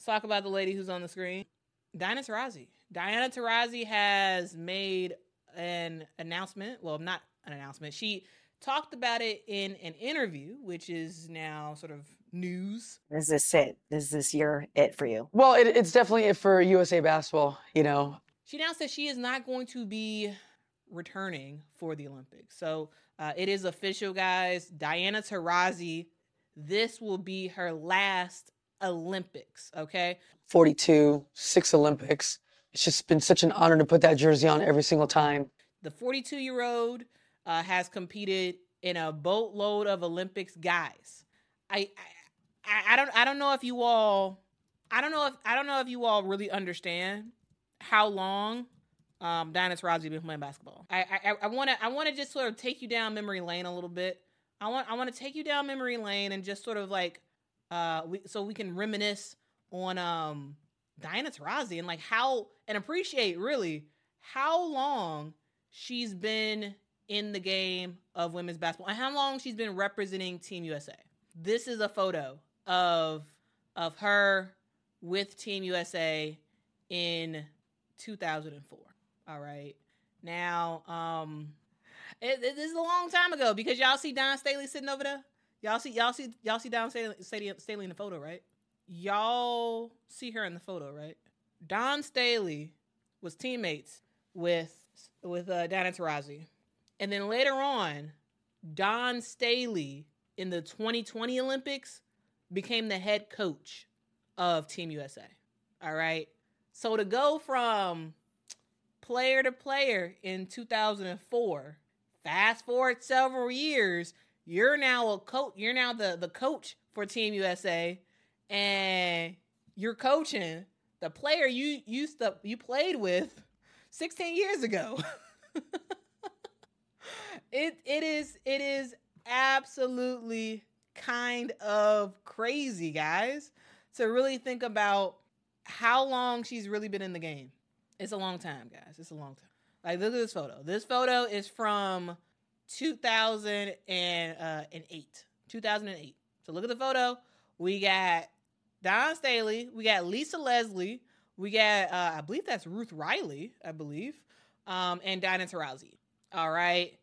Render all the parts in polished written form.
Let's talk about the lady who's on the screen. Diana Taurasi. Diana Taurasi has made an announcement. Well, not an announcement. She talked about it in an interview, which is now sort of news. Is this it? Is this it for you? Well, it's definitely it for USA Basketball, you know. She announced that she is not going to be returning for the Olympics. So it is official, guys. Diana Taurasi, this will be her last Olympics, okay? 42, 6 Olympics. It's just been such an honor to put that jersey on every single time. The 42-year-old has competed in a boatload of Olympics, guys. I don't know if you all really understand how long Diana Taurasi been playing basketball. I want to just sort of take you down memory lane a little bit. I want to take you down memory lane and just sort of like so we can reminisce on Diana Taurasi and like how and appreciate really how long she's been in the game of women's basketball and how long she's been representing Team USA. This is a photo of her with Team USA in 2004. All right. Now, this is a long time ago because y'all see Dawn Staley sitting over there. Y'all see Dawn Staley in the photo, right? Y'all see her in the photo, right? Dawn Staley was teammates with Diana Taurasi, and then later on, Dawn Staley in the 2020 Olympics became the head coach of Team USA. All right. So to go from player to player in 2004, fast forward several years, you're now a coach. You're now the coach for Team USA, and you're coaching the player you played with 16 years ago. It is absolutely kind of crazy, guys, to really think about how long she's really been in the game. It's a long time, guys. It's a long time. Like, look at this photo. This photo is from 2008. 2008. So look at the photo. We got Dawn Staley. We got Lisa Leslie. We got, I believe that's Ruth Riley, I believe, and Diana Taurasi. All right.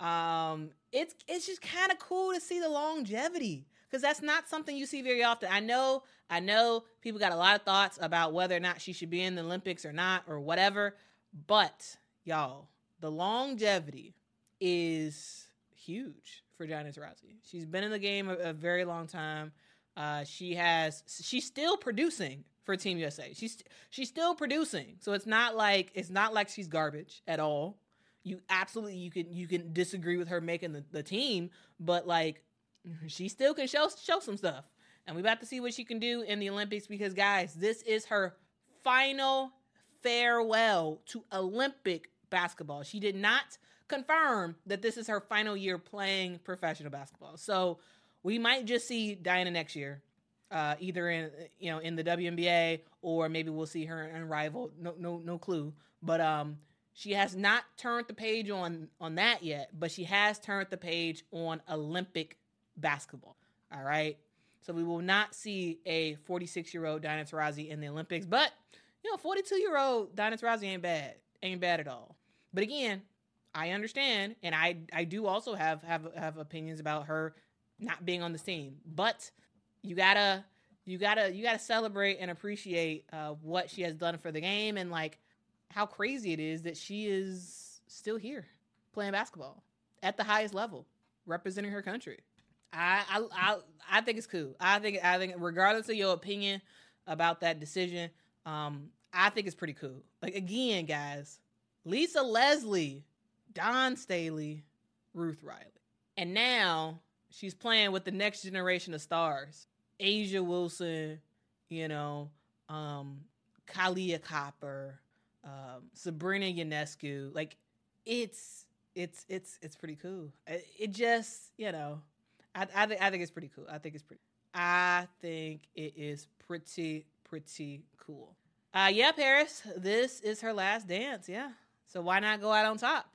It's just kind of cool to see the longevity because that's not something you see very often. I know people got a lot of thoughts about whether or not she should be in the Olympics or not or whatever, but y'all, the longevity is huge for Diana Taurasi. She's been in the game a very long time. She's still producing for Team USA. She's still producing. So it's not like she's garbage at all. You can disagree with her making the team, but like she still can show some stuff. And we about to see what she can do in the Olympics because guys, this is her final farewell to Olympic basketball. She did not confirm that this is her final year playing professional basketball. So we might just see Diana next year, either in the WNBA or maybe we'll see her in Rival. No clue. But she has not turned the page on that yet, but she has turned the page on Olympic basketball. All right. So we will not see a 46-year-old Diana Taurasi in the Olympics, but 42-year-old Diana Taurasi ain't bad at all. But again, I understand, and I do also have opinions about her not being on the team. But you gotta celebrate and appreciate what she has done for the game and like how crazy it is that she is still here playing basketball at the highest level, representing her country. I think it's cool. I think regardless of your opinion about that decision, I think it's pretty cool. Like again, guys, Lisa Leslie, Dawn Staley, Ruth Riley, and now she's playing with the next generation of stars: Asia Wilson, Kalia Copper, Sabrina Ionescu. Like it's pretty cool. It just I think it's pretty cool. I think it is pretty cool. Yeah, Paris, this is her last dance. Yeah. So why not go out on top?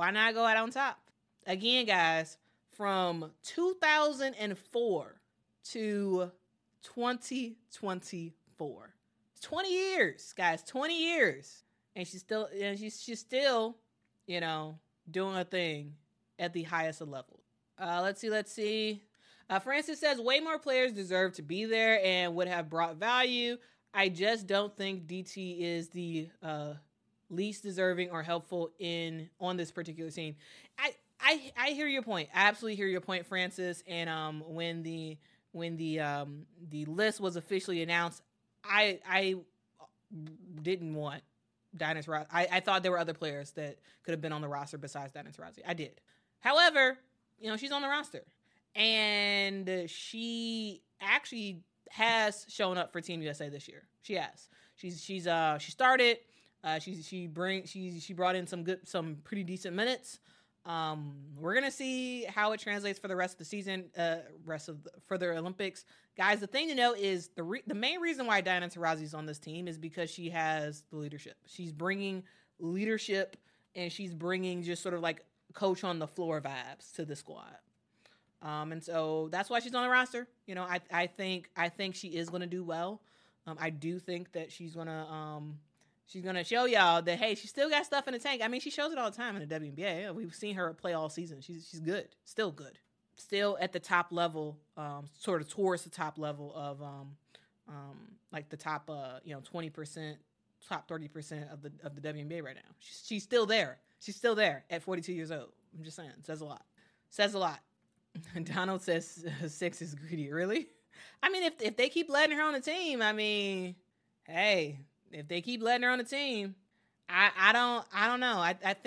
Again, guys, from 2004 to 2024, 2004. It's 20 years, guys, 20 years. And she's still, she's still, doing a thing at the highest of levels. Let's see. Francis says, way more players deserve to be there and would have brought value. I just don't think DT is the least deserving or helpful on this particular team. I hear your point. I absolutely hear your point, Francis. And when the list was officially announced, I didn't want Diana Taurasi. I thought there were other players that could have been on the roster besides Diana Taurasi. I did. However, she's on the roster, and she actually has shown up for Team USA this year. She has. She started. She brought in some pretty decent minutes. We're gonna see how it translates for the rest of the season, for the Olympics, guys. The thing to know is the main reason why Diana Taurasi is on this team is because she has the leadership. She's bringing leadership, and she's bringing just sort of like coach on the floor vibes to the squad. And so that's why she's on the roster. I think she is gonna do well. I do think that she's gonna show y'all that, hey, she still got stuff in the tank. I mean, she shows it all the time in the WNBA. We've seen her play all season. She's good, still good, still at the top level, sort of towards the top level of like the top 20%, top 30% of the WNBA right now. She's still there. She's still there at 42 years old. I'm just saying, says a lot. Says a lot. Donald says 6 is greedy. Really? I mean, if they keep letting her on the team, I mean, hey. If they keep letting her on the team, I don't know.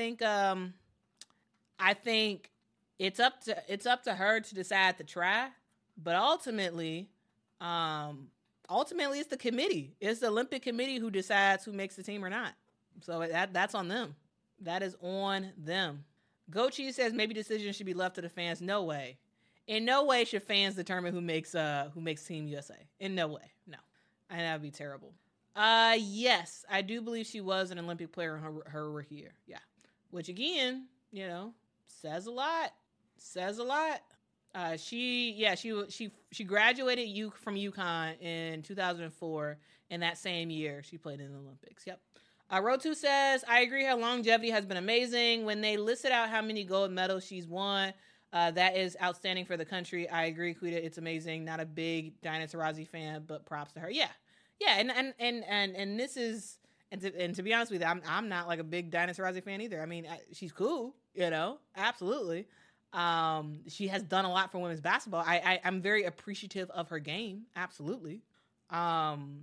I think it's up to her to decide to try, but ultimately it's the committee. It's the Olympic Committee who decides who makes the team or not. So that's on them. That is on them. Gochi says maybe decisions should be left to the fans. No way. In no way should fans determine who makes Team USA. In no way. No. And that would be terrible. Yes, I do believe she was an Olympic player in her rookie year. Yeah. Which again, says a lot. Says a lot. She graduated from UConn in 2004, and that same year she played in the Olympics. Yep. Rotu says, I agree her longevity has been amazing. When they listed out how many gold medals she's won, that is outstanding for the country. I agree, Quita. It's amazing. Not a big Diana Taurasi fan, but props to her. Yeah. Yeah, and this is, and to be honest with you, I'm not like a big Diana Taurasi fan either. I mean, she's cool, absolutely. She has done a lot for women's basketball. I'm very appreciative of her game, absolutely. And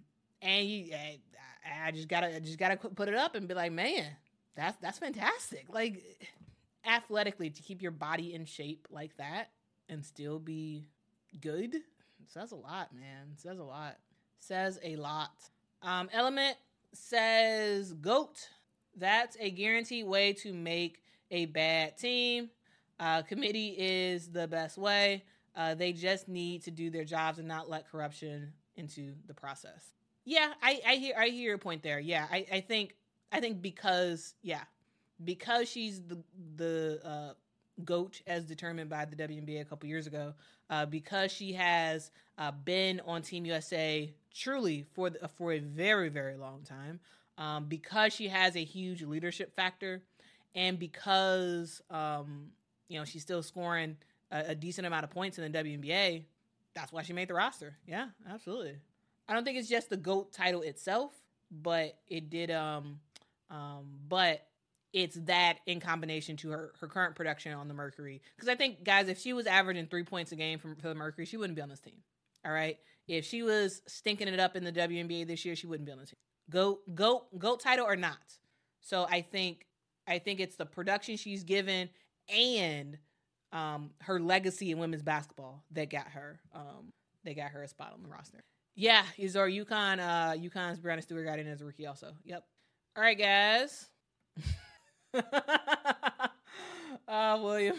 I just gotta put it up and be like, man, that's fantastic. Like, athletically, to keep your body in shape like that and still be good, it says a lot, man. It says a lot. Says a lot. Element says, GOAT. That's a guaranteed way to make a bad team. Committee is the best way. They just need to do their jobs and not let corruption into the process. Yeah, I hear your point there. Yeah, I think because she's the GOAT as determined by the WNBA a couple years ago, because she has been on Team USA truly for a very, very long time, because she has a huge leadership factor, and because she's still scoring a decent amount of points in the WNBA. That's why she made the roster. Yeah, absolutely. I don't think it's just the GOAT title itself, but it did. But it's that in combination to her current production on the Mercury. Because I think, guys, if she was averaging 3 points a game for the Mercury, she wouldn't be on this team. All right? If she was stinking it up in the WNBA this year, she wouldn't be on the team. GOAT title or not. So I think it's the production she's given and her legacy in women's basketball that got her a spot on the roster. Yeah, Izor, UConn's Brianna Stewart got in as a rookie also. Yep. All right, guys. William.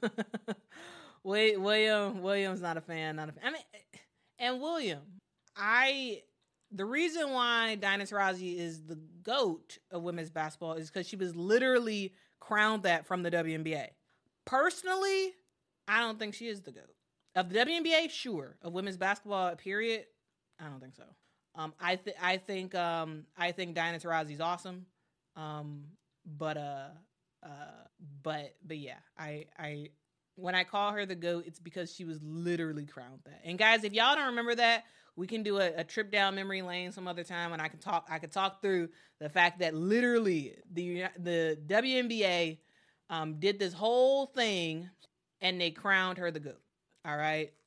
William's not a fan. I mean, and William, the reason why Diana Taurasi is the GOAT of women's basketball is because she was literally crowned that from the WNBA. Personally, I don't think she is the GOAT. Of the WNBA, sure. Of women's basketball, period, I don't think so. I think Diana Taurasi's awesome. But yeah, I when I call her the GOAT, it's because she was literally crowned that. And guys, if y'all don't remember that, we can do a trip down memory lane some other time, and I could talk through the fact that literally the WNBA did this whole thing and they crowned her the GOAT. All right.